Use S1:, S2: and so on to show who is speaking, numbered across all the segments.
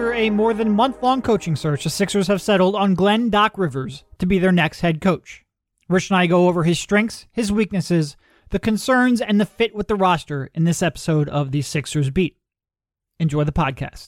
S1: After a more than month-long coaching search, the Sixers have settled on Glenn Doc Rivers to be their next head coach. Rich and I go over his strengths, his weaknesses, the concerns, and the fit with the roster in this episode of the Sixers Beat. Enjoy the podcast.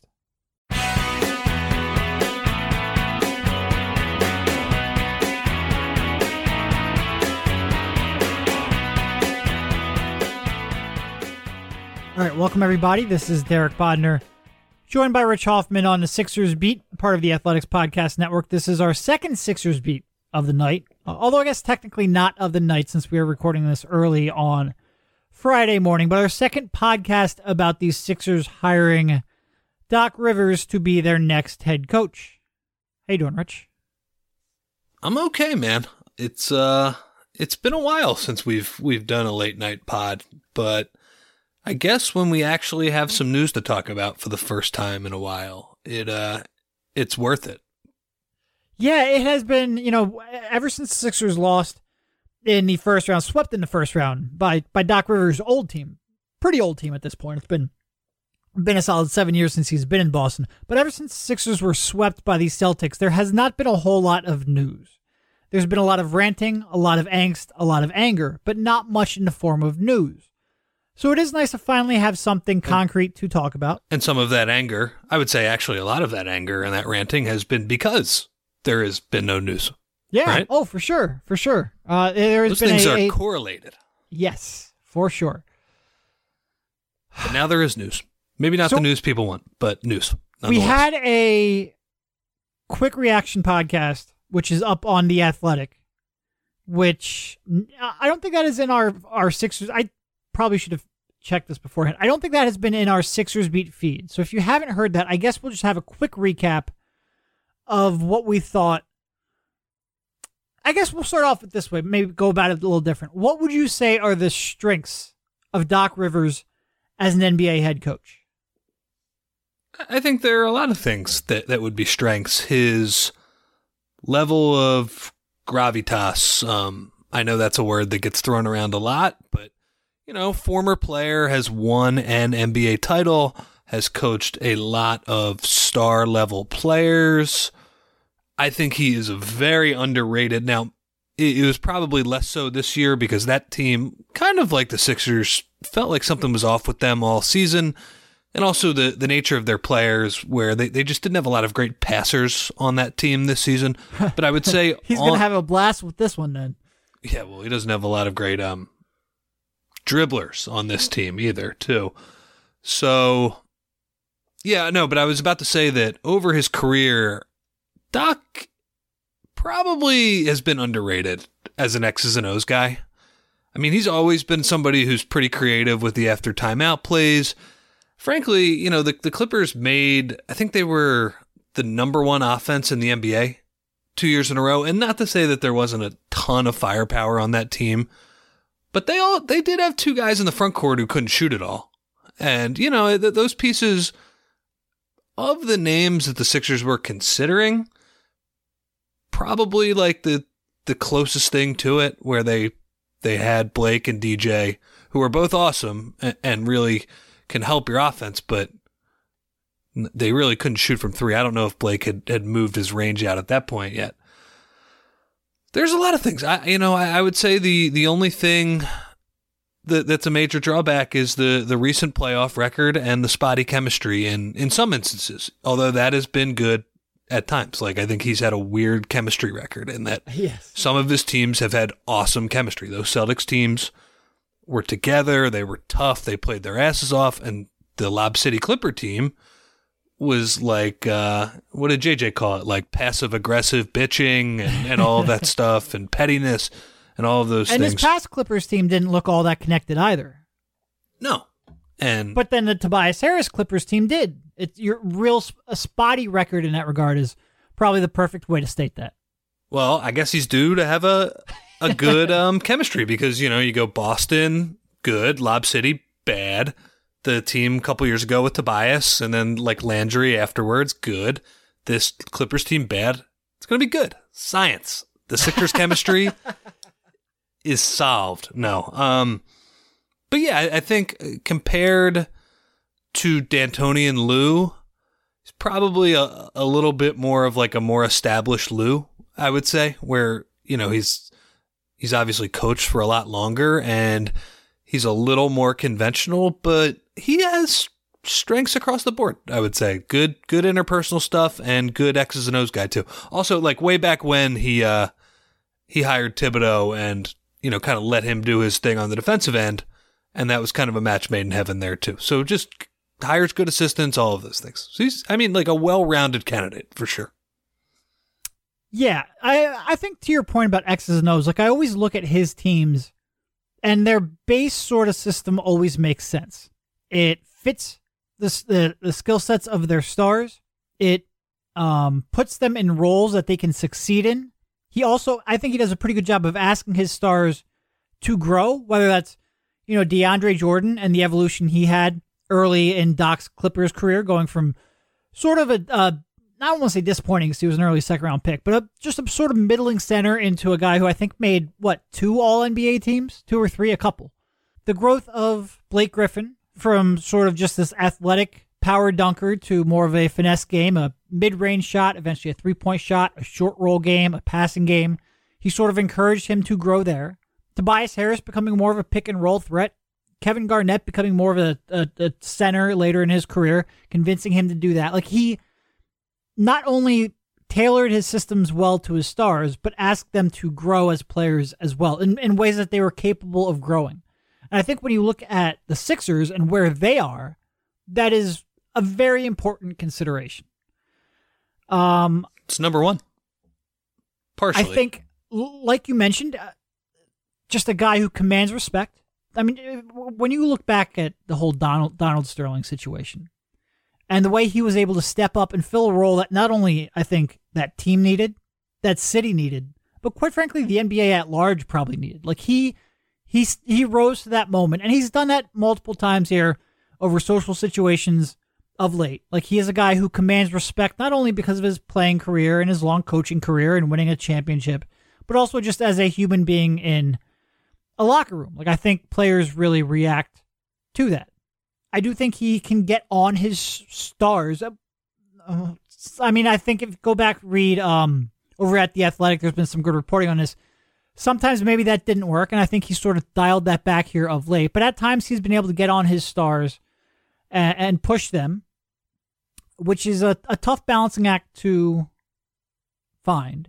S1: All right, welcome everybody. This is Derek Bodner, joined by Rich Hoffman on the Sixers Beat, part of the Athletics Podcast Network. This is our second Sixers Beat of the night, although I guess technically not of the night since we are recording this early on Friday morning, but our second podcast about the Sixers hiring Doc Rivers to be their next head coach. How you doing, Rich?
S2: I'm okay, man. It's been a while since we've done a late night pod, but I guess when we actually have some news to talk about for the first time in a while, it's worth it.
S1: Yeah, it has been, ever since the Sixers lost in the first round, swept in the first round by Doc Rivers' old team. Pretty old team at this point. It's been a solid 7 years since he's been in Boston. But ever since the Sixers were swept by the Celtics, there has not been a whole lot of news. There's been a lot of ranting, a lot of angst, a lot of anger, but not much in the form of news. So it is nice to finally have something concrete to talk about.
S2: And some of that anger, I would say actually a lot of that anger and that ranting has been because there has been no news.
S1: Yeah.
S2: Right?
S1: Oh, for sure. For sure.
S2: Those things are correlated.
S1: Yes, for sure.
S2: But now there is news. Maybe not the news people want, but news.
S1: We had a quick reaction podcast, which is up on The Athletic, which I don't think that is in our Sixers. I probably should have checked this beforehand. I don't think that has been in our Sixers Beat feed. So if you haven't heard that, I guess we'll just have a quick recap of what we thought. I guess we'll start off with this way, maybe go about it a little different. What would you say are the strengths of Doc Rivers as an NBA head coach?
S2: I think there are a lot of things that would be strengths. His level of gravitas. I know that's a word that gets thrown around a lot, but former player, has won an NBA title, has coached a lot of star-level players. I think he is very underrated. Now, it was probably less so this year because that team, kind of like the Sixers, felt like something was off with them all season. And also the nature of their players, where they just didn't have a lot of great passers on that team this season. But I would say
S1: he's going to have a blast with this one then.
S2: Yeah, well, he doesn't have a lot of great dribblers on this team either, too. So, yeah, no, but I was about to say that over his career, Doc probably has been underrated as an X's and O's guy. I mean, he's always been somebody who's pretty creative with the after timeout plays. Frankly, the Clippers made, I think they were the number one offense in the NBA 2 years in a row. And not to say that there wasn't a ton of firepower on that team, but they did have two guys in the front court who couldn't shoot at all. And, those pieces of the names that the Sixers were considering, probably like the closest thing to it, where they had Blake and DJ, who are both awesome and really can help your offense, but they really couldn't shoot from three. I don't know if Blake had moved his range out at that point yet. There's a lot of things. I would say the only thing that's a major drawback is the recent playoff record and the spotty chemistry in some instances, although that has been good at times. Like, I think he's had a weird chemistry record in that Some of his teams have had awesome chemistry. Those Celtics teams were together. They were tough. They played their asses off. And the Lob City Clipper team was like, what did JJ call it? Like passive-aggressive bitching and all of that stuff and pettiness and all of those things.
S1: And this past Clippers team didn't look all that connected either.
S2: No.
S1: But then the Tobias Harris Clippers team did. A spotty record in that regard is probably the perfect way to state that.
S2: Well, I guess he's due to have a good chemistry because, you go Boston, good, Lob City, bad. The team a couple years ago with Tobias, and then like Landry afterwards, good. This Clippers team, bad. It's going to be good. Science. The Sixers chemistry is solved. No. But yeah, I think compared to D'Antoni and Lou, He's probably a little bit more of like a more established Lou, I would say, where, he's obviously coached for a lot longer and he's a little more conventional, but he has strengths across the board, I would say. Good interpersonal stuff and good X's and O's guy too. Also, like way back when he hired Thibodeau and, kind of let him do his thing on the defensive end. And that was kind of a match made in heaven there too. So just hires good assistants, all of those things. So he's, like a well-rounded candidate for sure.
S1: Yeah, I think to your point about X's and O's, like I always look at his teams and their base sort of system always makes sense. It fits the skill sets of their stars. It puts them in roles that they can succeed in. I think he does a pretty good job of asking his stars to grow, whether that's, DeAndre Jordan and the evolution he had early in Doc's Clippers career, going from sort of I don't want to say disappointing because he was an early second-round pick, but just a sort of middling center into a guy who I think made, 2 All-NBA teams? 2 or 3? A couple. The growth of Blake Griffin from sort of just this athletic power dunker to more of a finesse game, a mid-range shot, eventually a three-point shot, a short roll game, a passing game. He sort of encouraged him to grow there. Tobias Harris becoming more of a pick-and-roll threat. Kevin Garnett becoming more of a center later in his career, convincing him to do that. Like, he not only tailored his systems well to his stars, but asked them to grow as players as well, in ways that they were capable of growing. And I think when you look at the Sixers and where they are, that is a very important consideration.
S2: It's number one. Partially.
S1: I think, like you mentioned, just a guy who commands respect. I mean, when you look back at the whole Donald Sterling situation and the way he was able to step up and fill a role that not only I think that team needed, that city needed, but quite frankly, the NBA at large probably needed. Like he rose to that moment, and he's done that multiple times here over social situations of late. Like, he is a guy who commands respect not only because of his playing career and his long coaching career and winning a championship, but also just as a human being in a locker room. Like, I think players really react to that. I do think he can get on his stars. I mean, I think if you go back, read over at The Athletic, there's been some good reporting on this. Sometimes maybe that didn't work, and I think he sort of dialed that back here of late. But at times he's been able to get on his stars and push them, which is a tough balancing act to find.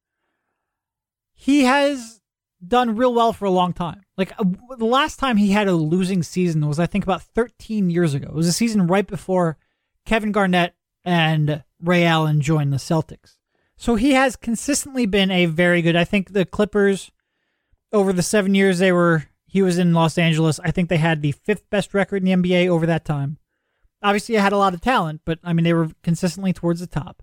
S1: He has done real well for a long time. Like, the last time he had a losing season was, I think, about 13 years ago. It was a season right before Kevin Garnett and Ray Allen joined the Celtics. So he has consistently been a very good, I think the Clippers, over the 7 years he was in Los Angeles, I think they had the 5th best record in the NBA over that time. Obviously, I had a lot of talent, but I mean, they were consistently towards the top.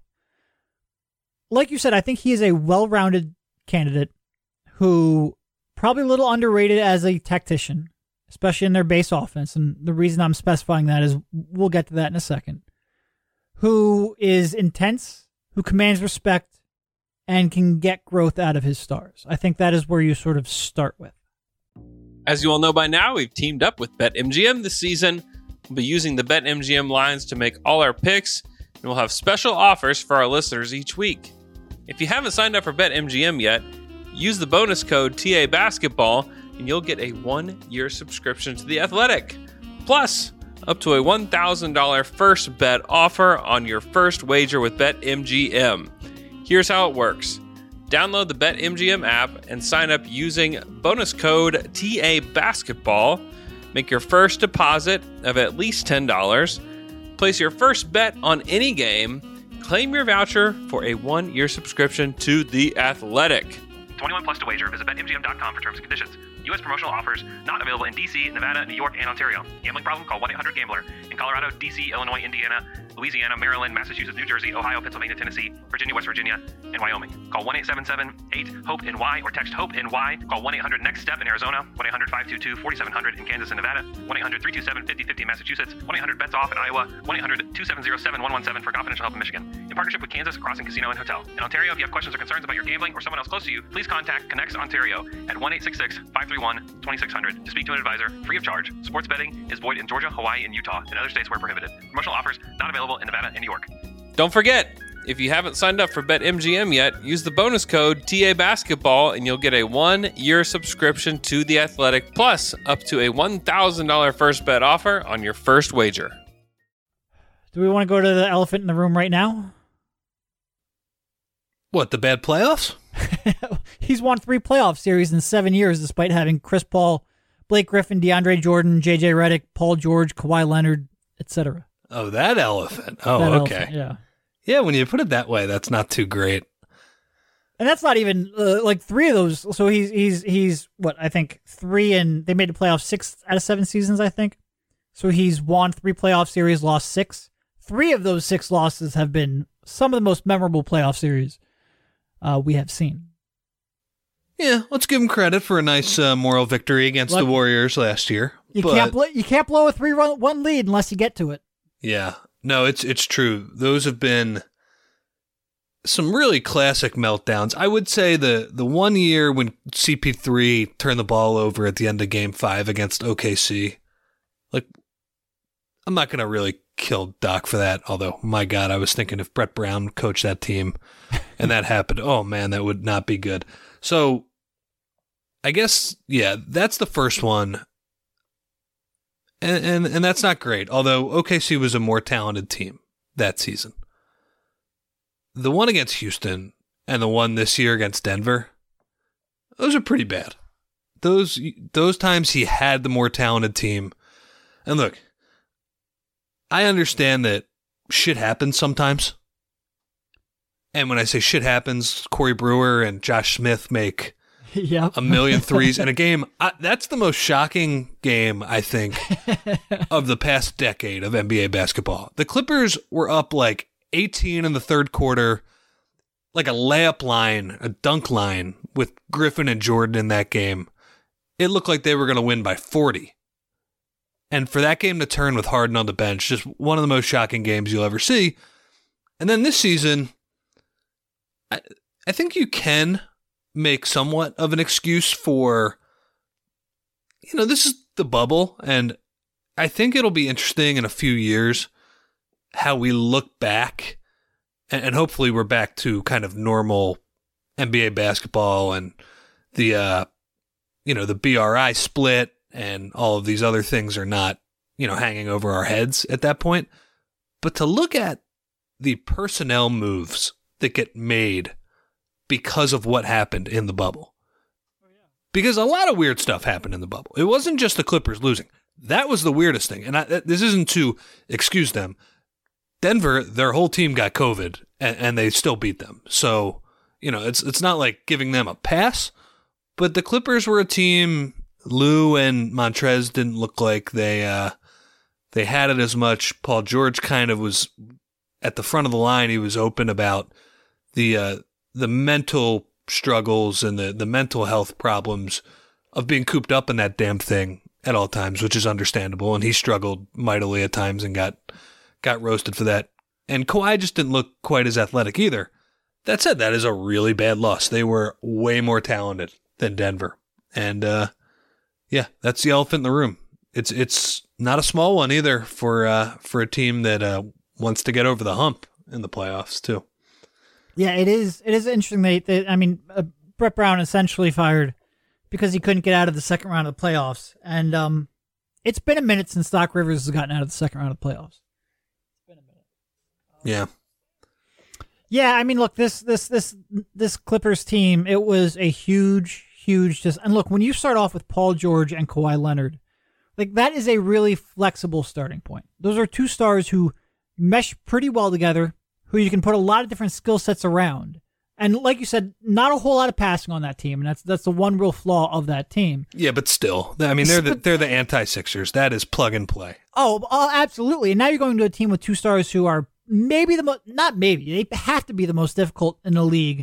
S1: Like you said, I think he is a well-rounded candidate who probably a little underrated as a tactician, especially in their base offense. And the reason I'm specifying that is we'll get to that in a second. Who is intense, who commands respect, and can get growth out of his stars. I think that is where you sort of start with.
S3: As you all know by now, we've teamed up with BetMGM this season. We'll be using the BetMGM lines to make all our picks, and we'll have special offers for our listeners each week. If you haven't signed up for BetMGM yet, use the bonus code TABasketball, and you'll get a 1-year subscription to The Athletic. Plus, up to a $1,000 first bet offer on your first wager with BetMGM. Here's how it works. Download the BetMGM app and sign up using bonus code TABasketball. Make your first deposit of at least $10. Place your first bet on any game. Claim your voucher for a 1-year subscription to The Athletic.
S4: 21 plus to wager. Visit BetMGM.com for terms and conditions. U.S. promotional offers not available in D.C., Nevada, New York, and Ontario. Gambling problem? Call 1-800-GAMBLER. In Colorado, D.C., Illinois, Indiana, Louisiana, Maryland, Massachusetts, New Jersey, Ohio, Pennsylvania, Tennessee, Virginia, West Virginia, and Wyoming. Call 1-877-8-HOPE-NY or text HOPE-NY. Call 1-800-NEXT-STEP in Arizona, 1-800-522-4700 in Kansas and Nevada, 1-800-327-5050 in Massachusetts, 1-800-BETS-OFF in Iowa, 1-800-270-7117 for confidential help in Michigan. In partnership with Kansas Crossing Casino and Hotel. In Ontario, if you have questions or concerns about your gambling or someone else close to you, please contact Connects Ontario at 1-866-531-2600 to speak to an advisor free of charge. Sports betting is void in Georgia, Hawaii, and Utah, and other states where prohibited. Promotional offers not available available in Nevada and New York.
S3: Don't forget, if you haven't signed up for BetMGM yet, use the bonus code TABasketball and you'll get a 1-year subscription to The Athletic, plus up to a $1,000 first bet offer on your first wager.
S1: Do we want to go to the elephant in the room right now?
S2: What, the bad playoffs?
S1: He's won 3 playoff series in 7 years, despite having Chris Paul, Blake Griffin, DeAndre Jordan, JJ Redick, Paul George, Kawhi Leonard, etc.
S2: Oh, that elephant. Oh,
S1: That
S2: okay.
S1: elephant, yeah.
S2: Yeah, when you put it that way, that's not too great.
S1: And that's not even like 3 of those. So he's what, I think 3, and they made the playoffs 6 out of 7 seasons, I think. So he's won 3 playoff series, lost 6. 3 of those 6 losses have been some of the most memorable playoff series we have seen.
S2: Yeah, let's give him credit for a nice moral victory against the Warriors last year.
S1: You can't blow a 3-1 lead unless you get to it.
S2: Yeah, no, it's true. Those have been some really classic meltdowns. I would say the 1 year when CP3 turned the ball over at the end of Game 5 against OKC, like, I'm not going to really kill Doc for that, although, my God, I was thinking if Brett Brown coached that team and that happened, oh man, that would not be good. So, I guess, yeah, that's the first one. And that's not great, although OKC was a more talented team that season. The one against Houston and the one this year against Denver, those are pretty bad. Those times he had the more talented team. And look, I understand that shit happens sometimes. And when I say shit happens, Corey Brewer and Josh Smith make a million threes in a game. That's the most shocking game, I think, of the past decade of NBA basketball. The Clippers were up like 18 in the third quarter, like a layup line, a dunk line with Griffin and Jordan in that game. It looked like they were going to win by 40. And for that game to turn with Harden on the bench, just one of the most shocking games you'll ever see. And then this season, I think you can make somewhat of an excuse for, this is the bubble, and I think it'll be interesting in a few years how we look back, and hopefully we're back to kind of normal NBA basketball and the BRI split and all of these other things are not, hanging over our heads at that point. But to look at the personnel moves that get made because of what happened in the bubble. Because a lot of weird stuff happened in the bubble. It wasn't just the Clippers losing. That was the weirdest thing. And this isn't to excuse them. Denver, their whole team got COVID, and they still beat them. So, it's not like giving them a pass. But the Clippers were a team. Lou and Montrez didn't look like they had it as much. Paul George kind of was at the front of the line. He was open about the mental struggles and the mental health problems of being cooped up in that damn thing at all times, which is understandable. And he struggled mightily at times and got roasted for that. And Kawhi just didn't look quite as athletic either. That said, that is a really bad loss. They were way more talented than Denver. And that's the elephant in the room. It's not a small one either for a team that wants to get over the hump in the playoffs too.
S1: Yeah, it is. It is interesting. Brett Brown essentially fired because he couldn't get out of the second round of the playoffs, and it's been a minute since Doc Rivers has gotten out of the second round of the playoffs. It's been a minute. Yeah. Look, this Clippers team, it was a huge. And look, when you start off with Paul George and Kawhi Leonard, like that is a really flexible starting point. Those are 2 stars who mesh pretty well together, who you can put a lot of different skill sets around. And like you said, not a whole lot of passing on that team, and that's the one real flaw of that team.
S2: Yeah, but still, they're the anti-Sixers. That is plug and play.
S1: Oh, absolutely. And now you're going to a team with 2 stars who are maybe they have to be the most difficult in the league.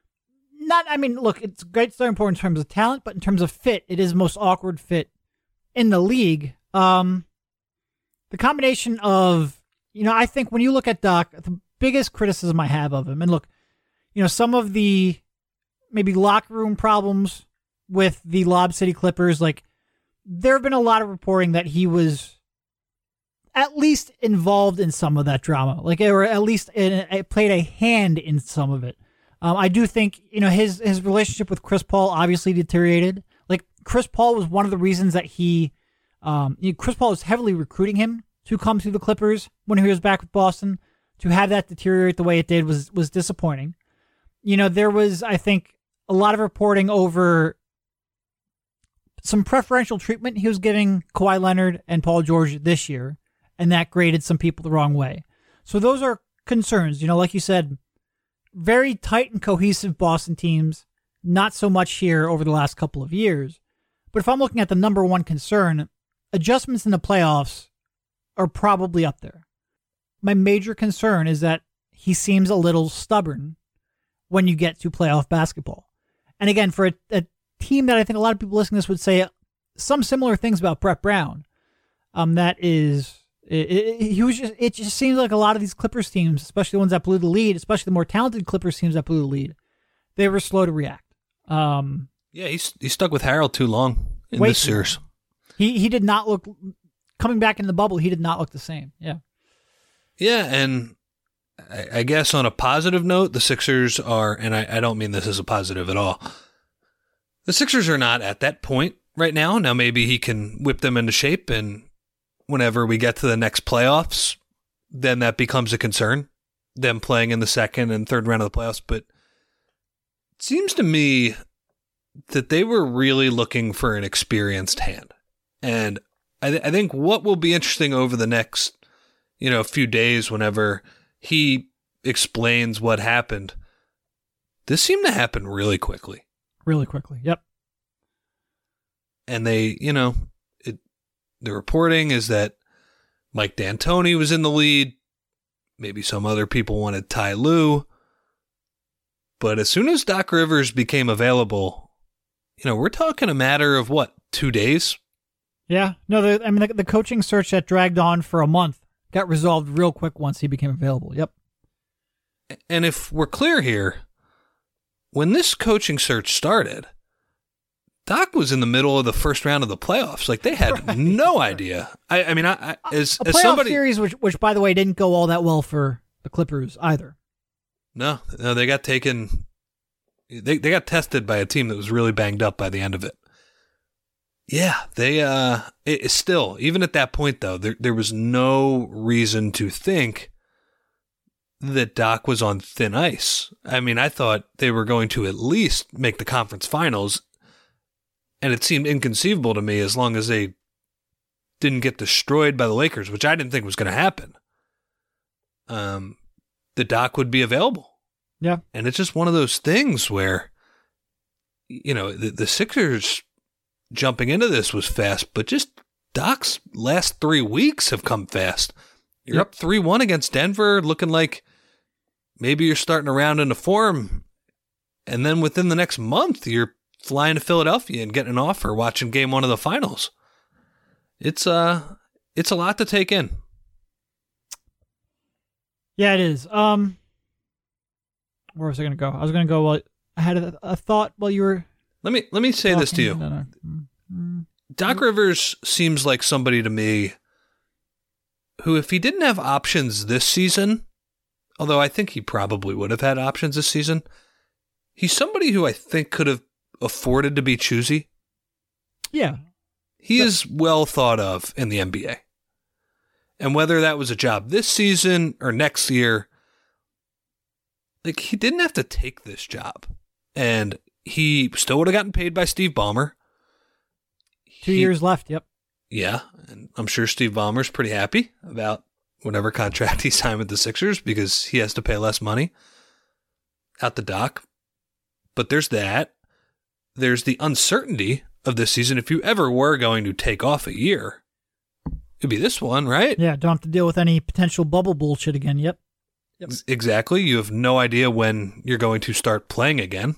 S1: Look, it's a great starting point in terms of talent, but in terms of fit, it is the most awkward fit in the league. The combination of, I think when you look at Doc, the biggest criticism I have of him, and look, some of the maybe locker room problems with the Lob City Clippers, like there have been a lot of reporting that he was at least involved in some of that drama, like, or at least played a hand in some of it. I do think, his relationship with Chris Paul obviously deteriorated. Like, Chris Paul was one of the reasons that Chris Paul was heavily recruiting him to come to the Clippers when he was back with Boston. To have that deteriorate the way it did was disappointing. There was, I think, a lot of reporting over some preferential treatment he was giving Kawhi Leonard and Paul George this year, and that graded some people the wrong way. So those are concerns. Like you said, very tight and cohesive Boston teams, not so much here over the last couple of years. But if I'm looking at the number one concern, adjustments in the playoffs are probably up there. My major concern is that he seems a little stubborn when you get to playoff basketball. And again, for a team that I think a lot of people listening to this would say some similar things about Brett Brown, it just seems like a lot of these Clippers teams, especially the ones that blew the lead, especially the more talented Clippers teams that blew the lead, they were slow to react.
S2: He stuck with Harold too long in this series.
S1: He did not look, coming back in the bubble, he did not look the same. Yeah.
S2: Yeah, and I guess on a positive note, the Sixers are, and I don't mean this as a positive at all, the Sixers are not at that point right now. Now maybe he can whip them into shape, and whenever we get to the next playoffs, then that becomes a concern, them playing in the second and third round of the playoffs. But it seems to me that they were really looking for an experienced hand. And I think what will be interesting over the next, few days whenever he explains what happened, this seemed to happen really quickly.
S1: Really quickly, yep.
S2: And they, the reporting is that Mike D'Antoni was in the lead. Maybe some other people wanted Ty Lue. But as soon as Doc Rivers became available, we're talking a matter of 2 days?
S1: Yeah. No, the coaching search that dragged on for a month got resolved real quick once he became available. Yep.
S2: And if we're clear here, when this coaching search started, Doc was in the middle of the first round of the playoffs. Like, they had no idea. I mean, as somebody
S1: series, which by the way didn't go all that well for the Clippers either.
S2: No, they got taken. They got tested by a team that was really banged up by the end of it. Yeah, it's still, even at that point though, there was no reason to think that Doc was on thin ice. I mean, I thought they were going to at least make the conference finals. And it seemed inconceivable to me, as long as they didn't get destroyed by the Lakers, which I didn't think was going to happen, the Doc would be available.
S1: Yeah.
S2: And it's just one of those things where, the Sixers jumping into this was fast, but just Doc's last 3 weeks have come fast. You're up 3-1 against Denver, looking like maybe you're starting to round into form. And then within the next month, you're flying to Philadelphia and getting an offer, watching game one of the finals. It's a lot to take in.
S1: Yeah, it is. Where was I going to go? I was going to go, I had a thought while you were...
S2: Let me say this to you.
S1: No.
S2: Doc Rivers seems like somebody to me who, if he didn't have options this season, although I think he probably would have had options this season, he's somebody who I think could have afforded to be choosy.
S1: Yeah.
S2: He is well thought of in the NBA. And whether that was a job this season or next year, like, he didn't have to take this job. And he still would have gotten paid by Steve Ballmer.
S1: 2 years left, yep.
S2: Yeah, and I'm sure Steve Ballmer's pretty happy about whatever contract he signed with the Sixers because he has to pay less money out the Doc. But there's that. There's the uncertainty of this season. If you ever were going to take off a year, it'd be this one, right?
S1: Yeah, don't have to deal with any potential bubble bullshit again. Yep.
S2: Exactly. You have no idea when you're going to start playing again.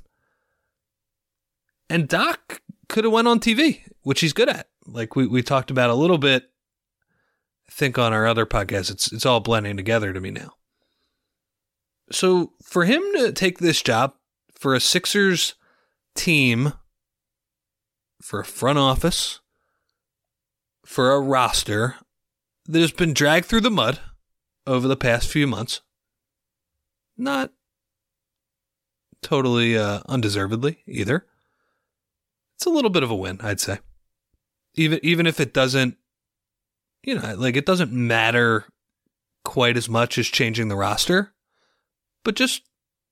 S2: And Doc could have went on TV, which he's good at. Like we talked about a little bit, I think on our other podcast. It's all blending together to me now. So for him to take this job, for a Sixers team, for a front office, for a roster that has been dragged through the mud over the past few months. Not totally undeservedly either. It's a little bit of a win, I'd say. Even if it doesn't, it doesn't matter quite as much as changing the roster, but just,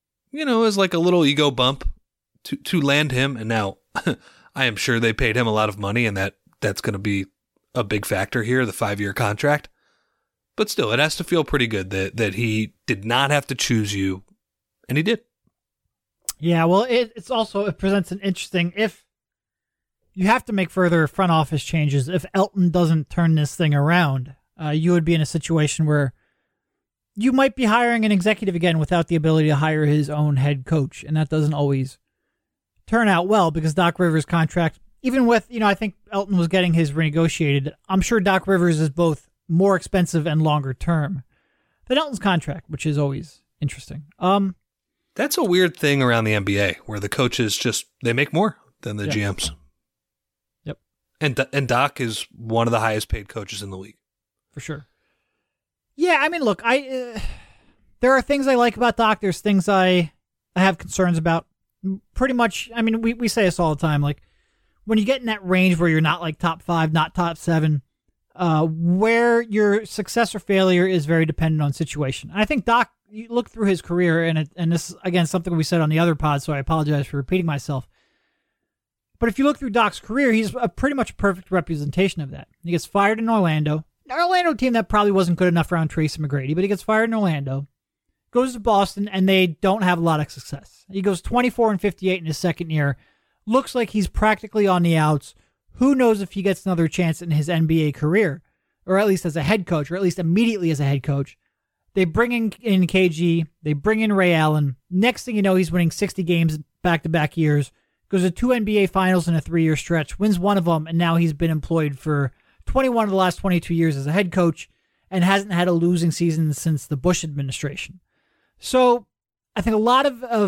S2: as like a little ego bump to land him. And now I am sure they paid him a lot of money, and that's going to be a big factor here, the 5-year contract. But still, it has to feel pretty good that he did not have to choose you, and he did.
S1: Yeah, well, it presents an interesting, if you have to make further front office changes, if Elton doesn't turn this thing around, you would be in a situation where you might be hiring an executive again without the ability to hire his own head coach, and that doesn't always turn out well, because Doc Rivers' contract, even with, I think Elton was getting his renegotiated, I'm sure Doc Rivers is both more expensive and longer term than Elton's contract, which is always interesting.
S2: That's a weird thing around the NBA, where the coaches they make more than the GMs.
S1: Yep.
S2: And Doc is one of the highest paid coaches in the league.
S1: For sure. Yeah, I mean, look, there are things I like about Doc. There's things I have concerns about. Pretty much, I mean, we say this all the time, like, when you get in that range where you're not like top 5, not top 7, where your success or failure is very dependent on situation. And I think Doc, you look through his career, and this is, again, something we said on the other pod, so I apologize for repeating myself. But if you look through Doc's career, he's pretty much a perfect representation of that. He gets fired in Orlando. An Orlando team that probably wasn't good enough around Tracy McGrady, but he gets fired in Orlando, goes to Boston, and they don't have a lot of success. He goes 24-58 in his second year. Looks like he's practically on the outs. Who knows if he gets another chance in his NBA career, or at least as a head coach, or at least immediately as a head coach. They bring in KG. They bring in Ray Allen. Next thing you know, he's winning 60 games back-to-back years. Goes to 2 NBA finals in a 3-year stretch. Wins one of them, and now he's been employed for 21 of the last 22 years as a head coach and hasn't had a losing season since the Bush administration. So I think a lot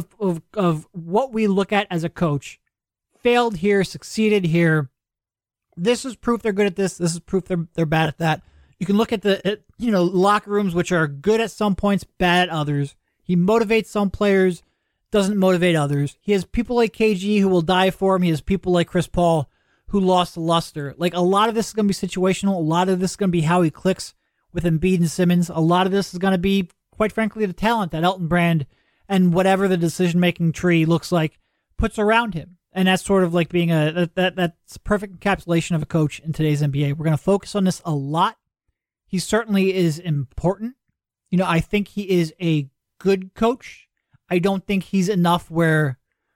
S1: of what we look at as a coach failed here, succeeded here. This is proof they're good at this. This is proof they're bad at that. You can look at the locker rooms, which are good at some points, bad at others. He motivates some players, doesn't motivate others. He has people like KG who will die for him. He has people like Chris Paul who lost luster. Like, a lot of this is going to be situational. A lot of this is going to be how he clicks with Embiid and Simmons. A lot of this is going to be, quite frankly, the talent that Elton Brand and whatever the decision-making tree looks like puts around him. And that's sort of like being that's a perfect encapsulation of a coach in today's NBA. We're going to focus on this a lot. He certainly is important. I think he is a good coach. I don't think he's enough where,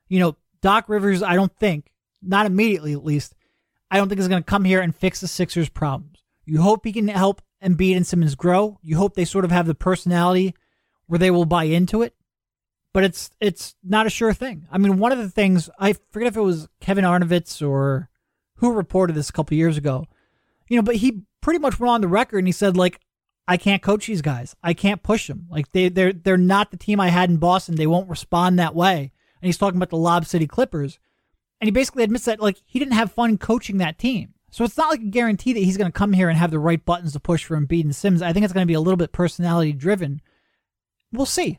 S1: Doc Rivers, I don't think, not immediately at least, I don't think is going to come here and fix the Sixers' problems. You hope he can help Embiid and Simmons grow. You hope they sort of have the personality where they will buy into it. But it's not a sure thing. I mean, one of the things, I forget if it was Kevin Arnovitz or who reported this a couple years ago, but he pretty much went on the record and he said, like, I can't coach these guys. I can't push them. Like, they're not the team I had in Boston. They won't respond that way. And he's talking about the Lob City Clippers. And he basically admits that, like, he didn't have fun coaching that team. So it's not like a guarantee that he's going to come here and have the right buttons to push for Embiid and Simmons. I think it's going to be a little bit personality driven. We'll see.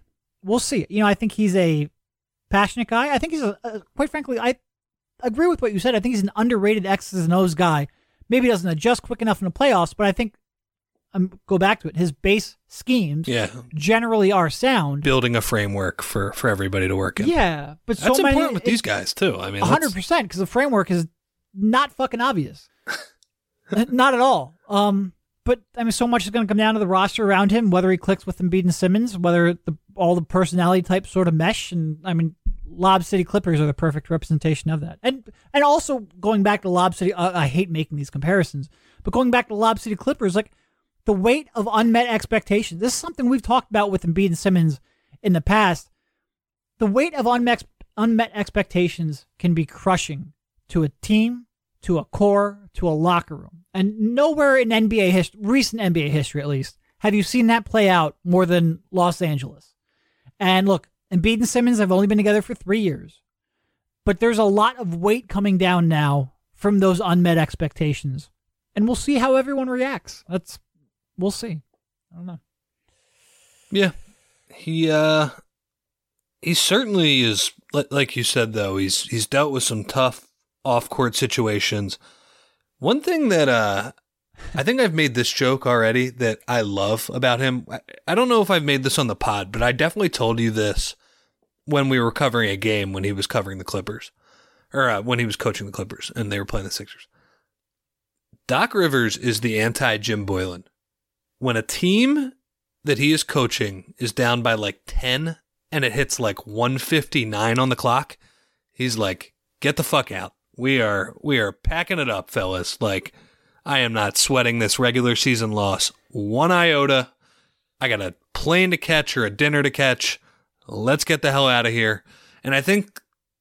S1: I think he's a passionate guy. I think he's quite frankly, I agree with what you said. I think he's an underrated X's and O's guy. Maybe he doesn't adjust quick enough in the playoffs, but I think, go back to it, his base schemes generally are sound.
S2: Building a framework for everybody to work in.
S1: Yeah. But
S2: that's important with these guys, too. I mean,
S1: 100%, because the framework is not fucking obvious. Not at all. But, I mean, so much is going to come down to the roster around him, whether he clicks with Embiid and Simmons, whether all the personality types sort of mesh. And, I mean, Lob City Clippers are the perfect representation of that. And also, going back to Lob City, I hate making these comparisons, but going back to Lob City Clippers, like, the weight of unmet expectations. This is something we've talked about with Embiid and Simmons in the past. The weight of unmet expectations can be crushing to a team, to a core, to a locker room. And nowhere in NBA history, recent NBA history at least, have you seen that play out more than Los Angeles. And look, Embiid and Simmons have only been together for 3 years. But there's a lot of weight coming down now from those unmet expectations. And we'll see how everyone reacts. we'll see. I don't know.
S2: Yeah. He certainly is, like you said, though, he's dealt with some tough off-court situations. One thing that I think I've made this joke already that I love about him. I don't know if I've made this on the pod, but I definitely told you this when we were covering a game when he was covering the Clippers, or when he was coaching the Clippers and they were playing the Sixers. Doc Rivers is the anti-Jim Boylan. When a team that he is coaching is down by like 10 and it hits like 1:59 on the clock, he's like, get the fuck out. We are packing it up, fellas. Like, I am not sweating this regular season loss one iota. I got a plane to catch or a dinner to catch. Let's get the hell out of here. And I think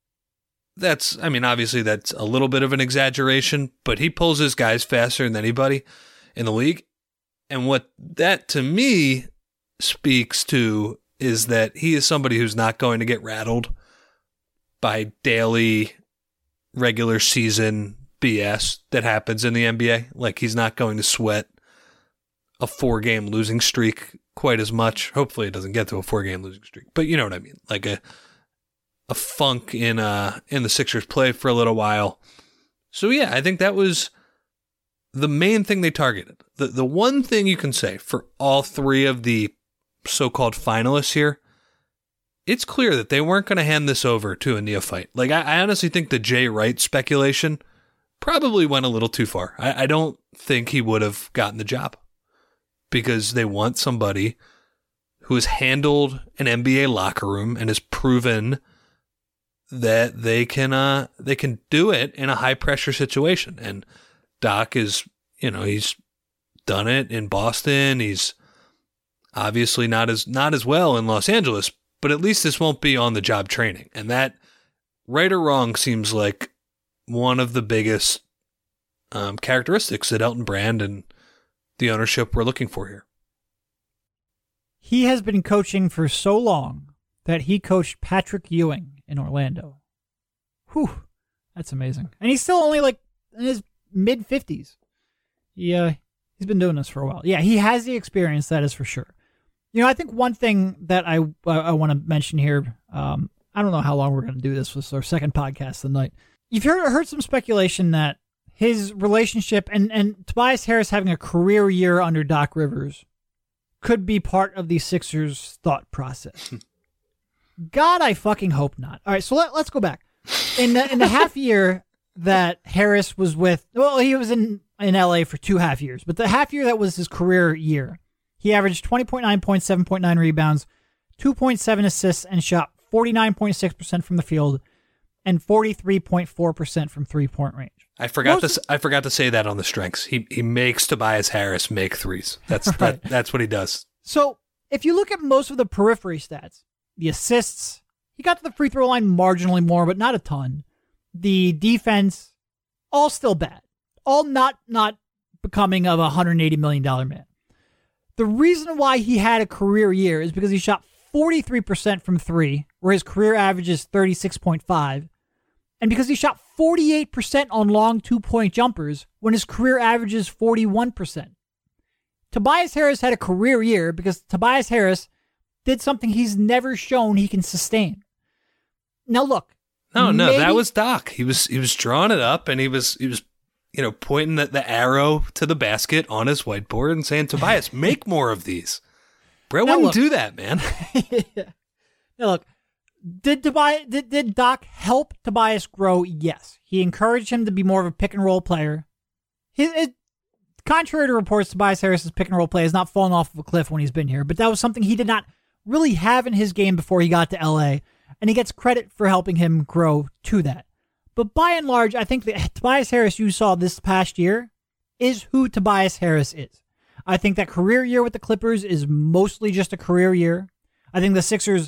S2: obviously that's a little bit of an exaggeration, but he pulls his guys faster than anybody in the league. And what that to me speaks to is that he is somebody who's not going to get rattled by daily regular season BS that happens in the NBA. Like, he's not going to sweat a 4-game losing streak quite as much. Hopefully it doesn't get to a 4-game losing streak, but you know what I mean? Like a funk in the Sixers play for a little while. So yeah, I think that was the main thing they targeted. The one thing you can say for all three of the so-called finalists here, it's clear that they weren't going to hand this over to a neophyte. Like, I honestly think the Jay Wright speculation probably went a little too far. I don't think he would have gotten the job because they want somebody who has handled an NBA locker room and has proven that they can do it in a high-pressure situation. And Doc is, he's done it in Boston. He's obviously not as well in Los Angeles, but at least this won't be on the job training. And that, right or wrong, seems like one of the biggest characteristics that Elton Brand and the ownership were looking for here.
S1: He has been coaching for so long that he coached Patrick Ewing in Orlando. Whew, that's amazing. And he's still only like in his mid-50s. He's been doing this for a while. Yeah, he has the experience, that is for sure. I think one thing that I want to mention here, I don't know how long we're going to do this. This is our second podcast of the night. You've heard some speculation that his relationship and Tobias Harris having a career year under Doc Rivers could be part of the Sixers' thought process. God, I fucking hope not. All right, so let's go back. In the half year that Harris was he was in LA for 2.5 years, but the half year that was his career year, he averaged 20.9 points, 7.9 rebounds, 2.7 assists, and shot 49.6% from the field and 43.4% from three-point range.
S2: I forgot to say that on the strengths. He makes Tobias Harris make threes. That's right. That's what he does.
S1: So if you look at most of the periphery stats, the assists, he got to the free throw line marginally more, but not a ton. The defense, all still bad. All not becoming of a $180 million man. The reason why he had a career year is because he shot 43% from three, where his career average is 36.5, and because he shot 48% on long 2-point jumpers when his career average is 41%. Tobias Harris had a career year because Tobias Harris did something he's never shown he can sustain. Now look.
S2: No, that was Doc. He was drawing it up and he was pointing the arrow to the basket on his whiteboard and saying, Tobias, make more of these. Brett wouldn't do that, man.
S1: Now look, did Doc help Tobias grow? Yes. He encouraged him to be more of a pick and roll player. Contrary to reports, Tobias Harris's pick and roll play has not fallen off of a cliff when he's been here, but that was something he did not really have in his game before he got to LA, and he gets credit for helping him grow to that. But by and large, I think the Tobias Harris you saw this past year is who Tobias Harris is. I think that career year with the Clippers is mostly just a career year. I think the Sixers,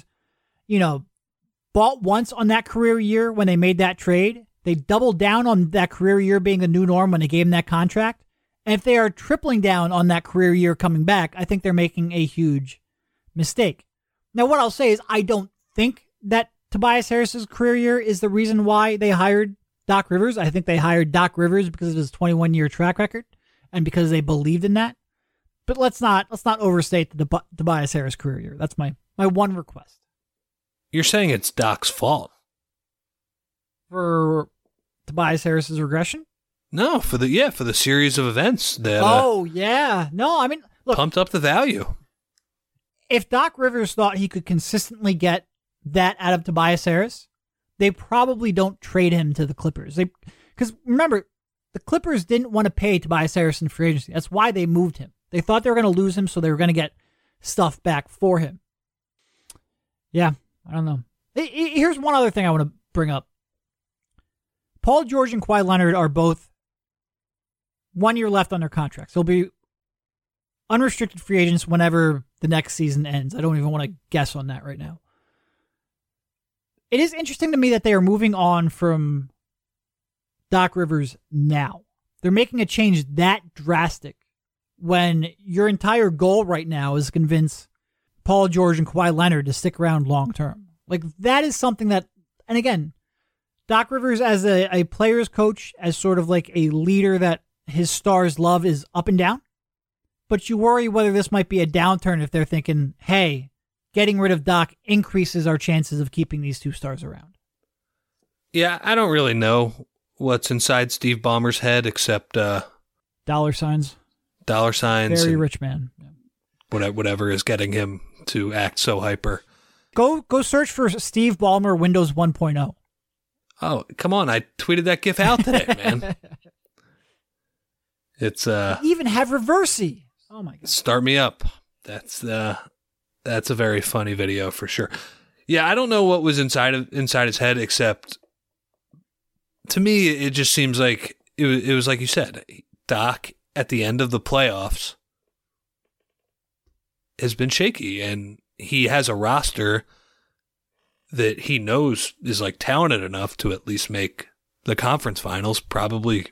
S1: bought once on that career year when they made that trade. They doubled down on that career year being the new norm when they gave him that contract. And if they are tripling down on that career year coming back, I think they're making a huge mistake. Now, what I'll say is I don't think that Tobias Harris's career year is the reason why they hired Doc Rivers. I think they hired Doc Rivers because of his 21-year track record and because they believed in that. But let's not overstate the Tobias Harris career year. That's my one request.
S2: You're saying it's Doc's fault?
S1: For Tobias Harris's regression?
S2: No, for the series of events that
S1: yeah. No, I mean, look,
S2: pumped up the value.
S1: If Doc Rivers thought he could consistently get that out of Tobias Harris, they probably don't trade him to the Clippers. Because remember, the Clippers didn't want to pay Tobias Harris in free agency. That's why they moved him. They thought they were going to lose him, so they were going to get stuff back for him. Yeah, I don't know. Here's one other thing I want to bring up. Paul George and Kawhi Leonard are both 1 year left on their contracts. They'll be unrestricted free agents whenever the next season ends. I don't even want to guess on that right now. It is interesting to me that they are moving on from Doc Rivers now. They're making a change that drastic when your entire goal right now is to convince Paul George and Kawhi Leonard to stick around long term. Like, that is something that, and again, Doc Rivers as a player's coach, as sort of like a leader that his stars love, is up and down. But you worry whether this might be a downturn if they're thinking, hey, getting rid of Doc increases our chances of keeping these two stars around.
S2: Yeah, I don't really know what's inside Steve Ballmer's head except
S1: dollar signs.
S2: Dollar signs.
S1: Very rich man. Yeah.
S2: Whatever is getting him to act so hyper.
S1: Go search for Steve Ballmer Windows 1.0.
S2: Oh, come on. I tweeted that GIF out today, man. It's
S1: They even have Reversey. Oh my god.
S2: Start me up. That's a very funny video for sure. Yeah, I don't know what was inside his head, except to me it just seems like it was like you said, Doc at the end of the playoffs has been shaky, and he has a roster that he knows is like talented enough to at least make the conference finals. Probably.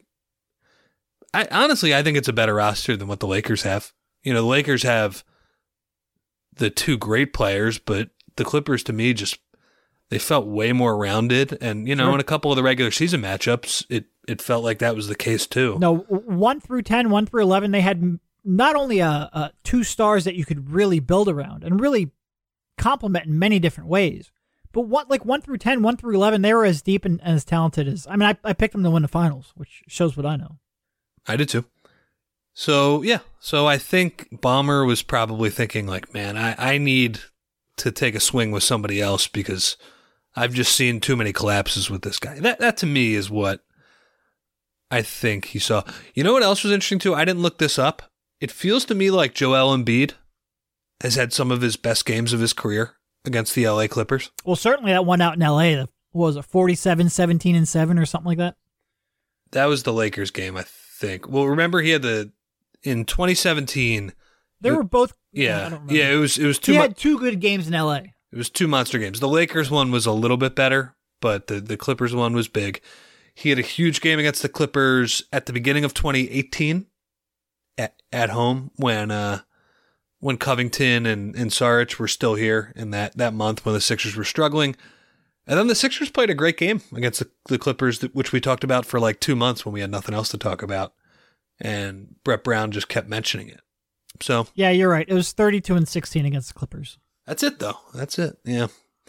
S2: I think it's a better roster than what the Lakers have. You know, the Lakers have the two great players, but the Clippers, to me, they felt way more rounded. And, you know, in a couple of the regular season matchups, it felt like that was the case too.
S1: No, 1 through 10, 1 through 11, they had not only two stars that you could really build around and really complement in many different ways, but 1 through 10, 1 through 11, they were as deep and as talented as, I mean, I picked them to win the finals, which shows what I know.
S2: I did too. So, yeah. So I think Ballmer was probably thinking like, man, I need to take a swing with somebody else because I've just seen too many collapses with this guy. That to me is what I think he saw. You know what else was interesting too? I didn't look this up. It feels to me like Joel Embiid has had some of his best games of his career against the LA Clippers.
S1: Well, certainly that one out in LA, what was it, 47, 17, and 7 or something like that?
S2: That was the Lakers game, I think. Well, remember he had in 2017.
S1: They were both.
S2: Yeah,
S1: I don't remember.
S2: yeah. It was two.
S1: He had two good games in LA.
S2: It was two monster games. The Lakers one was a little bit better, but the Clippers one was big. He had a huge game against the Clippers at the beginning of 2018 at home when Covington and Saric were still here in that month when the Sixers were struggling. And then the Sixers played a great game against the Clippers, which we talked about for like 2 months when we had nothing else to talk about. And Brett Brown just kept mentioning it. So
S1: yeah, you're right. It was 32-16 against the Clippers.
S2: That's it, though. That's it. Yeah.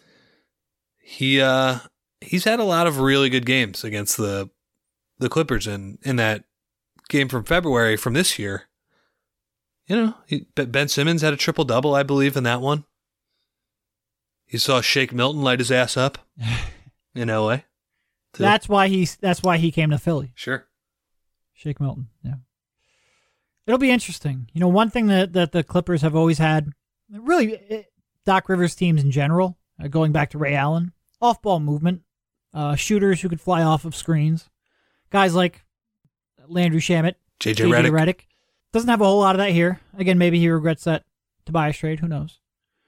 S2: He's had a lot of really good games against the Clippers, and in that game from February from this year, you know, Ben Simmons had a triple-double, I believe, in that one. You saw Shake Milton light his ass up in LA. too.
S1: That's why he came to Philly.
S2: Sure.
S1: Shake Milton. Yeah. It'll be interesting. You know, one thing that the Clippers have always had, really, Doc Rivers teams in general, going back to Ray Allen, off-ball movement, shooters who could fly off of screens, guys like Landry Shamet,
S2: JJ Redick.
S1: Doesn't have a whole lot of that here. Again, maybe he regrets that Tobias trade. Who knows?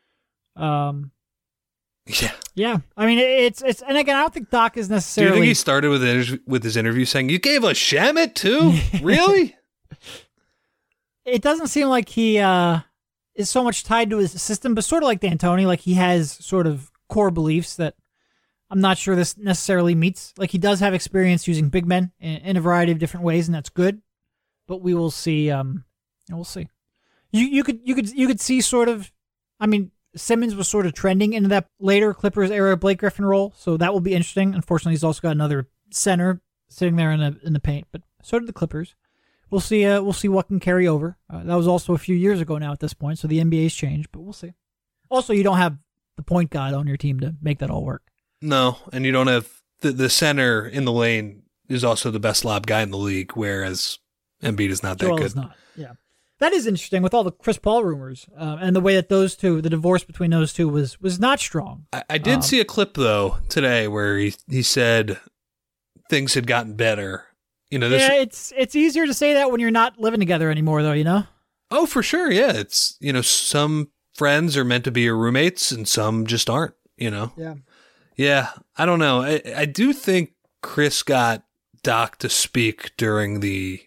S2: Yeah.
S1: Yeah. I mean, it's and again, I don't think Doc is
S2: Do
S1: necessarily.
S2: you think he started with his interview saying, "You gave us Shamet too? Really?"
S1: It doesn't seem like he is so much tied to his system, but sort of like D'Antoni, like he has sort of core beliefs that I'm not sure this necessarily meets. Like he does have experience using big men in a variety of different ways, and that's good. But we will see. We'll see. You could see sort of. I mean, Simmons was sort of trending into that later Clippers era Blake Griffin role, so that will be interesting. Unfortunately, he's also got another center sitting there in the paint, but so did the Clippers. We'll see. We'll see what can carry over. That was also a few years ago now at this point, so the NBA's changed, but we'll see. Also, you don't have the point guard on your team to make that all work.
S2: No, and you don't have the center in the lane is also the best lob guy in the league, whereas Embiid is not that
S1: Joel
S2: good.
S1: is not. Yeah, that is interesting with all the Chris Paul rumors and the way that those two, the divorce between those two was not strong.
S2: I did see a clip though today where he said things had gotten better. You know,
S1: yeah, it's easier to say that when you're not living together anymore, though. You know.
S2: Oh, for sure. Yeah, it's some friends are meant to be your roommates and some just aren't.
S1: Yeah.
S2: Yeah, I don't know. I do think Chris got Doc to speak during the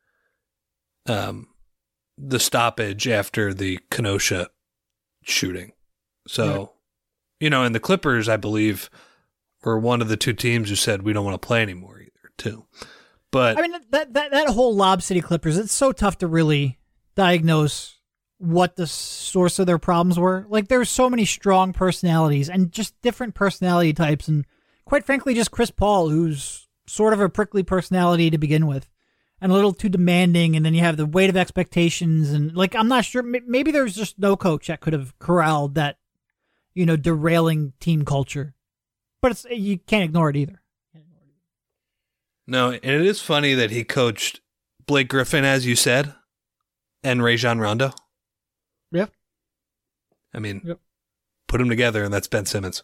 S2: stoppage after the Kenosha shooting. So, and the Clippers, I believe, were one of the two teams who said we don't want to play anymore either, too. But
S1: I mean, that whole Lob City Clippers, it's so tough to really diagnose what the source of their problems were. Like, there's so many strong personalities and just different personality types, and quite frankly, just Chris Paul, who's sort of a prickly personality to begin with, and a little too demanding, and then you have the weight of expectations, and like, I'm not sure, maybe there's just no coach that could have corralled that, derailing team culture. But you can't ignore it either.
S2: No, and it is funny that he coached Blake Griffin, as you said, and Rajon Rondo.
S1: Yeah.
S2: I mean, put them together, and that's Ben Simmons.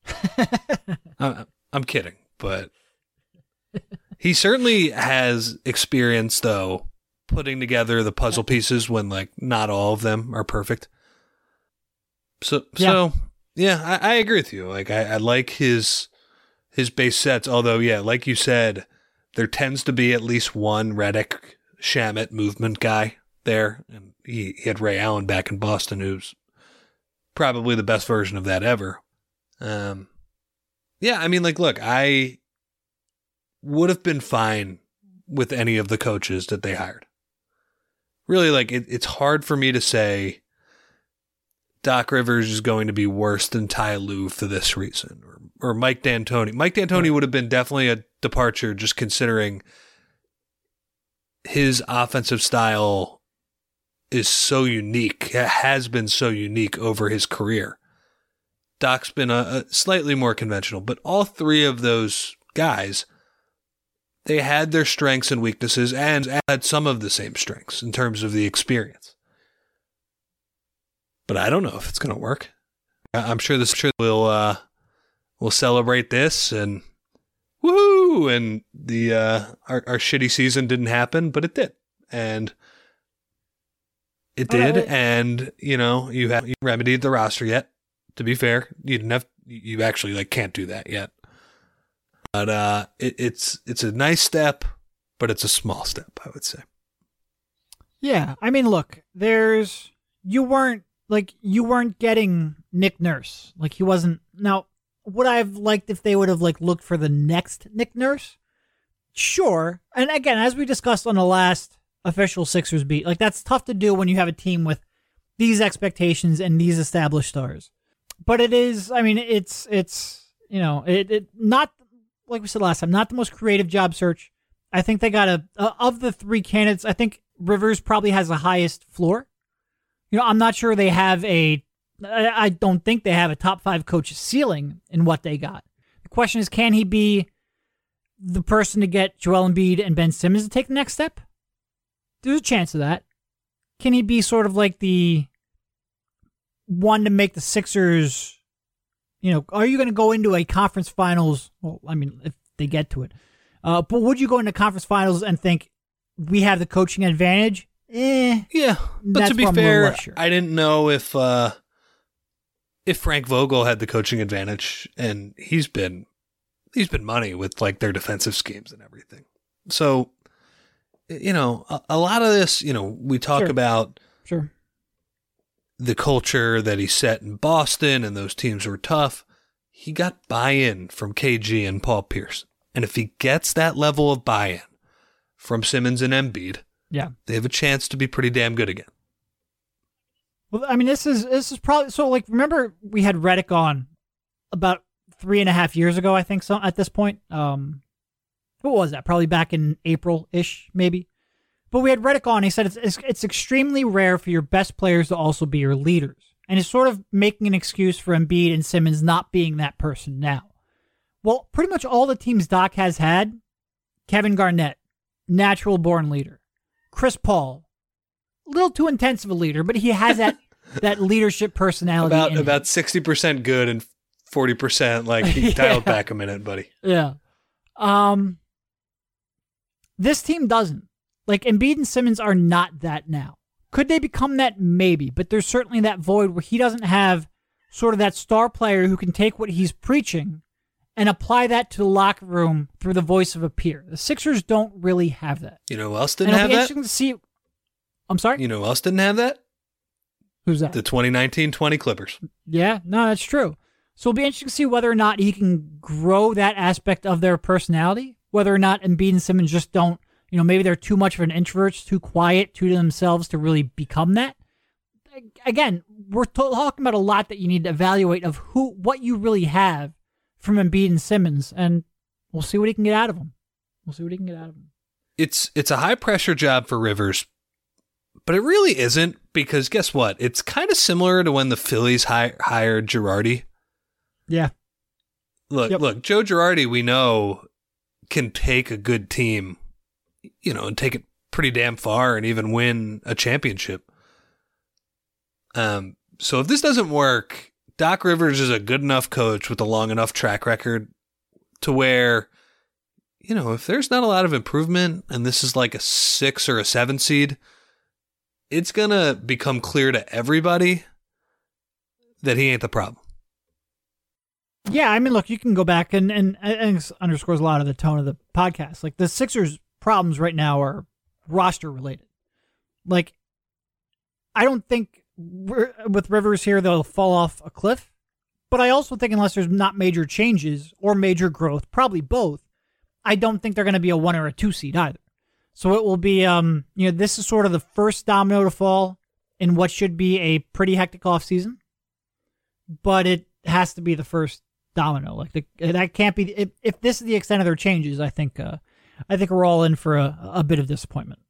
S2: I'm kidding, but he certainly has experience, though, putting together the puzzle pieces when, like, not all of them are perfect. So yeah, I agree with you. Like, I like his base sets, although, yeah, like you said, there tends to be at least one Redick Shamet movement guy there, and he had Ray Allen back in Boston, who's probably the best version of that ever. Yeah, I mean, like, look, I would have been fine with any of the coaches that they hired. Really, like, it's hard for me to say Doc Rivers is going to be worse than Ty Lue for this reason, or Mike D'Antoni. Mike D'Antoni would have been definitely a departure, just considering his offensive style is so unique, has been so unique over his career. Doc's been a slightly more conventional, but all three of those guys, they had their strengths and weaknesses and had some of the same strengths in terms of the experience. But I don't know if it's going to work. I'm sure we'll celebrate this and woohoo! And the our shitty season didn't happen, but it did, and it did. And you remedied the roster yet. To be fair, you actually like can't do that yet. But it's a nice step, but it's a small step, I would say.
S1: Yeah, I mean, look, you weren't getting Nick Nurse. Like, he wasn't. Now, would I have liked if they would have like looked for the next Nick Nurse? Sure. And again, as we discussed on the last official Sixers beat, like, that's tough to do when you have a team with these expectations and these established stars. But it is, I mean, it's not, like we said last time, not the most creative job search. I think they got of the three candidates, I think Rivers probably has the highest floor. I'm not sure I don't think they have a top 5 coach ceiling in what they got. The question is, can he be the person to get Joel Embiid and Ben Simmons to take the next step? There's a chance of that. Can he be sort of like the one to make the Sixers, are you going to go into a conference finals? Well, I mean, if they get to it. But would you go into conference finals and think we have the coaching advantage?
S2: Yeah, but to be fair, I didn't know if Frank Vogel had the coaching advantage, and he's been money with like their defensive schemes and everything. So, a lot of this, we talk about the culture that he set in Boston, and those teams were tough. He got buy-in from KG and Paul Pierce, and if he gets that level of buy-in from Simmons and Embiid, yeah, they have a chance to be pretty damn good again.
S1: Well, I mean, this is probably so. Like, remember we had Redick on about 3.5 years ago, I think. So at this point, what was that? Probably back in April-ish, maybe. But we had Redick on. He said it's extremely rare for your best players to also be your leaders, and he's sort of making an excuse for Embiid and Simmons not being that person now. Well, pretty much all the teams Doc has had, Kevin Garnett, natural-born leader. Chris Paul, a little too intense of a leader, but he has that leadership personality.
S2: About 60% good and 40% like he dialed back a minute, buddy.
S1: Yeah. This team doesn't. Like, Embiid and Simmons are not that now. Could they become that? Maybe, but there's certainly that void where he doesn't have sort of that star player who can take what he's preaching and apply that to the locker room through the voice of a peer. The Sixers don't really have that.
S2: You know who else didn't have that?
S1: Interesting to see. I'm sorry?
S2: You know who else didn't have that?
S1: Who's that?
S2: The 2019-20 Clippers.
S1: Yeah, no, that's true. So it'll be interesting to see whether or not he can grow that aspect of their personality, whether or not Embiid and Simmons just don't, maybe they're too much of an introvert, too quiet to themselves to really become that. Again, we're talking about a lot that you need to evaluate of what you really have from Embiid and Simmons, and we'll see what he can get out of them.
S2: It's a high-pressure job for Rivers, but it really isn't, because guess what? It's kind of similar to when the Phillies hired Girardi.
S1: Yeah.
S2: Look, Joe Girardi, we know, can take a good team, and take it pretty damn far and even win a championship. So if this doesn't work, Doc Rivers is a good enough coach with a long enough track record to where, if there's not a lot of improvement and this is like a 6 or a 7 seed, it's going to become clear to everybody that he ain't the problem.
S1: Yeah, I mean, look, you can go back and this underscores a lot of the tone of the podcast. Like, the Sixers' problems right now are roster related. Like, I don't think with Rivers here they'll fall off a cliff, but I also think unless there's not major changes or major growth, probably both, I don't think they're going to be a 1 or a 2 seed either. So it will be, this is sort of the first domino to fall in what should be a pretty hectic offseason, but it has to be the first domino. Like, that can't be. If this is the extent of their changes, I think we're all in for a bit of disappointment.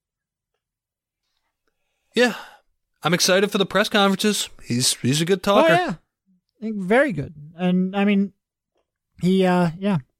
S2: Yeah, I'm excited for the press conferences. He's a good talker.
S1: Oh, yeah, I think very good. And I mean, we'll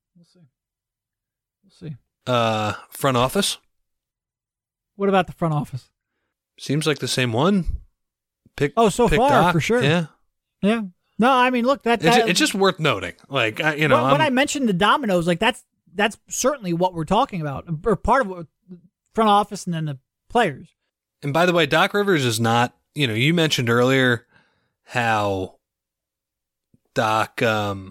S1: see.
S2: Front office.
S1: What about the front office?
S2: Seems like the same one.
S1: So far,
S2: Doc.
S1: for sure.
S2: Yeah.
S1: No, I mean, look,
S2: it's just worth noting. Like, when
S1: I mentioned the dominoes, like that's certainly what we're talking about, or part of what front office and then the players.
S2: And by the way, Doc Rivers is not. You mentioned earlier how Doc.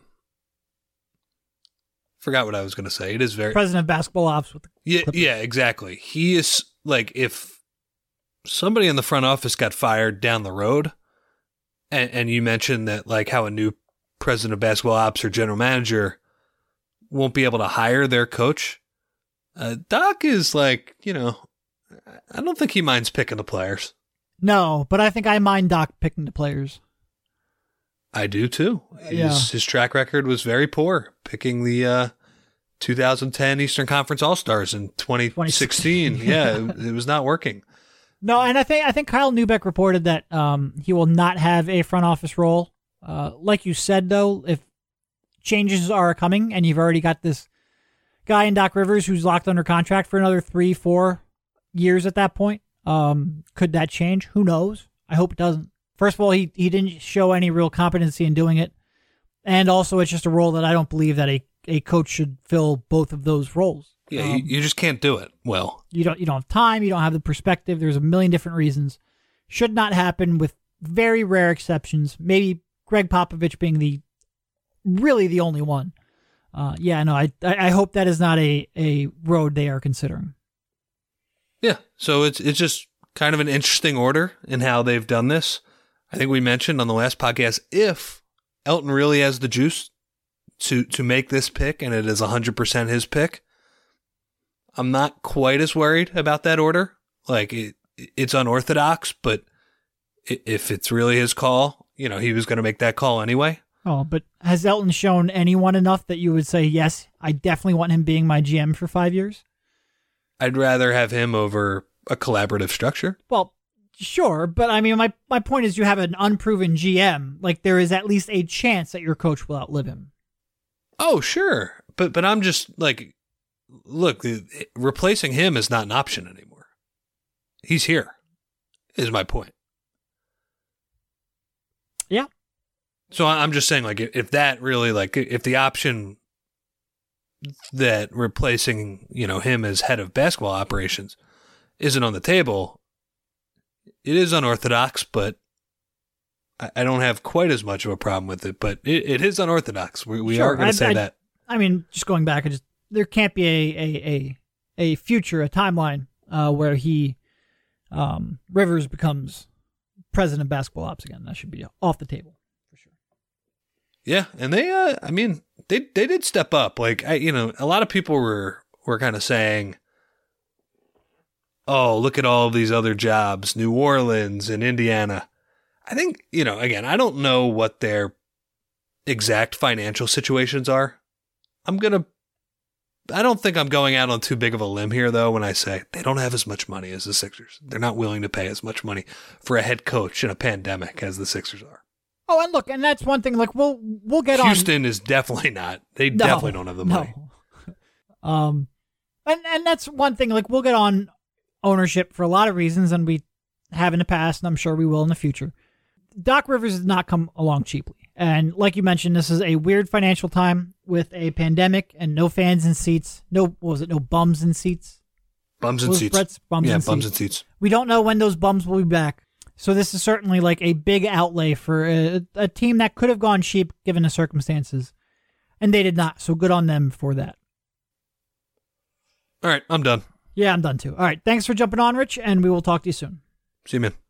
S2: Forgot what I was going to say. It is very
S1: president of basketball ops with the Clippers.
S2: Yeah, exactly. He is like, if somebody in the front office got fired down the road. And you mentioned that, like, how a new president of basketball ops or general manager won't be able to hire their coach. Doc is like, I don't think he minds picking the players.
S1: No, but I think I mind Doc picking the players.
S2: I do too. His track record was very poor, picking the 2010 Eastern Conference All-Stars in 2016. Yeah, it was not working.
S1: No, and I think Kyle Neubeck reported that he will not have a front office role. Like you said, though, if changes are coming and you've already got this guy in Doc Rivers who's locked under contract for another 3-4 years at that point, could that change? Who knows? I hope it doesn't. First of all, he didn't show any real competency in doing it, and also it's just a role that I don't believe that a coach should fill both of those roles.
S2: Yeah, you just can't do it well. You
S1: don't have time. You don't have the perspective. There's a million different reasons. Should not happen, with very rare exceptions. Maybe Greg Popovich being really the only one. I hope that is not a road they are considering.
S2: Yeah, so it's just kind of an interesting order in how they've done this. I think we mentioned on the last podcast, if Elton really has the juice to make this pick, and it is 100% his pick, I'm not quite as worried about that order. Like, it's unorthodox, but if it's really his call, he was going to make that call anyway.
S1: Oh, but has Elton shown anyone enough that you would say, yes, I definitely want him being my GM for 5 years?
S2: I'd rather have him over a collaborative structure.
S1: Well, sure, but I mean, my point is you have an unproven GM. Like, there is at least a chance that your coach will outlive him.
S2: Oh, sure. But I'm just like, look, replacing him is not an option anymore. He's here, is my point.
S1: Yeah.
S2: So I'm just saying, like, if that really, like, if the option that replacing, him as head of basketball operations isn't on the table, it is unorthodox, but I don't have quite as much of a problem with it. But it is unorthodox. We
S1: Sure,
S2: are going to say that.
S1: I mean, just going back, there can't be a future, a timeline where Rivers becomes president of basketball ops again. That should be off the table for sure.
S2: Yeah, and they did step up. Like, a lot of people were kind of saying, oh, look at all of these other jobs, New Orleans and Indiana. I think, again, I don't know what their exact financial situations are. I don't think I'm going out on too big of a limb here, though, when I say they don't have as much money as the Sixers. They're not willing to pay as much money for a head coach in a pandemic as the Sixers are.
S1: Oh, and look, and that's one thing. Like, we'll get on.
S2: Houston is definitely not. They definitely don't have the money.
S1: No. And that's one thing. Like, we'll get on ownership for a lot of reasons, and we have in the past, and I'm sure we will in the future. Doc Rivers has not come along cheaply. And like you mentioned, this is a weird financial time with a pandemic and no fans in seats. No bums in seats?
S2: Bums in seats.
S1: Bums in seats. We don't know when those bums will be back. So this is certainly like a big outlay for a team that could have gone cheap given the circumstances. And they did not. So good on them for that.
S2: All right, I'm done.
S1: Yeah, I'm done too. All right, thanks for jumping on, Rich, and we will talk to you soon.
S2: See you, man.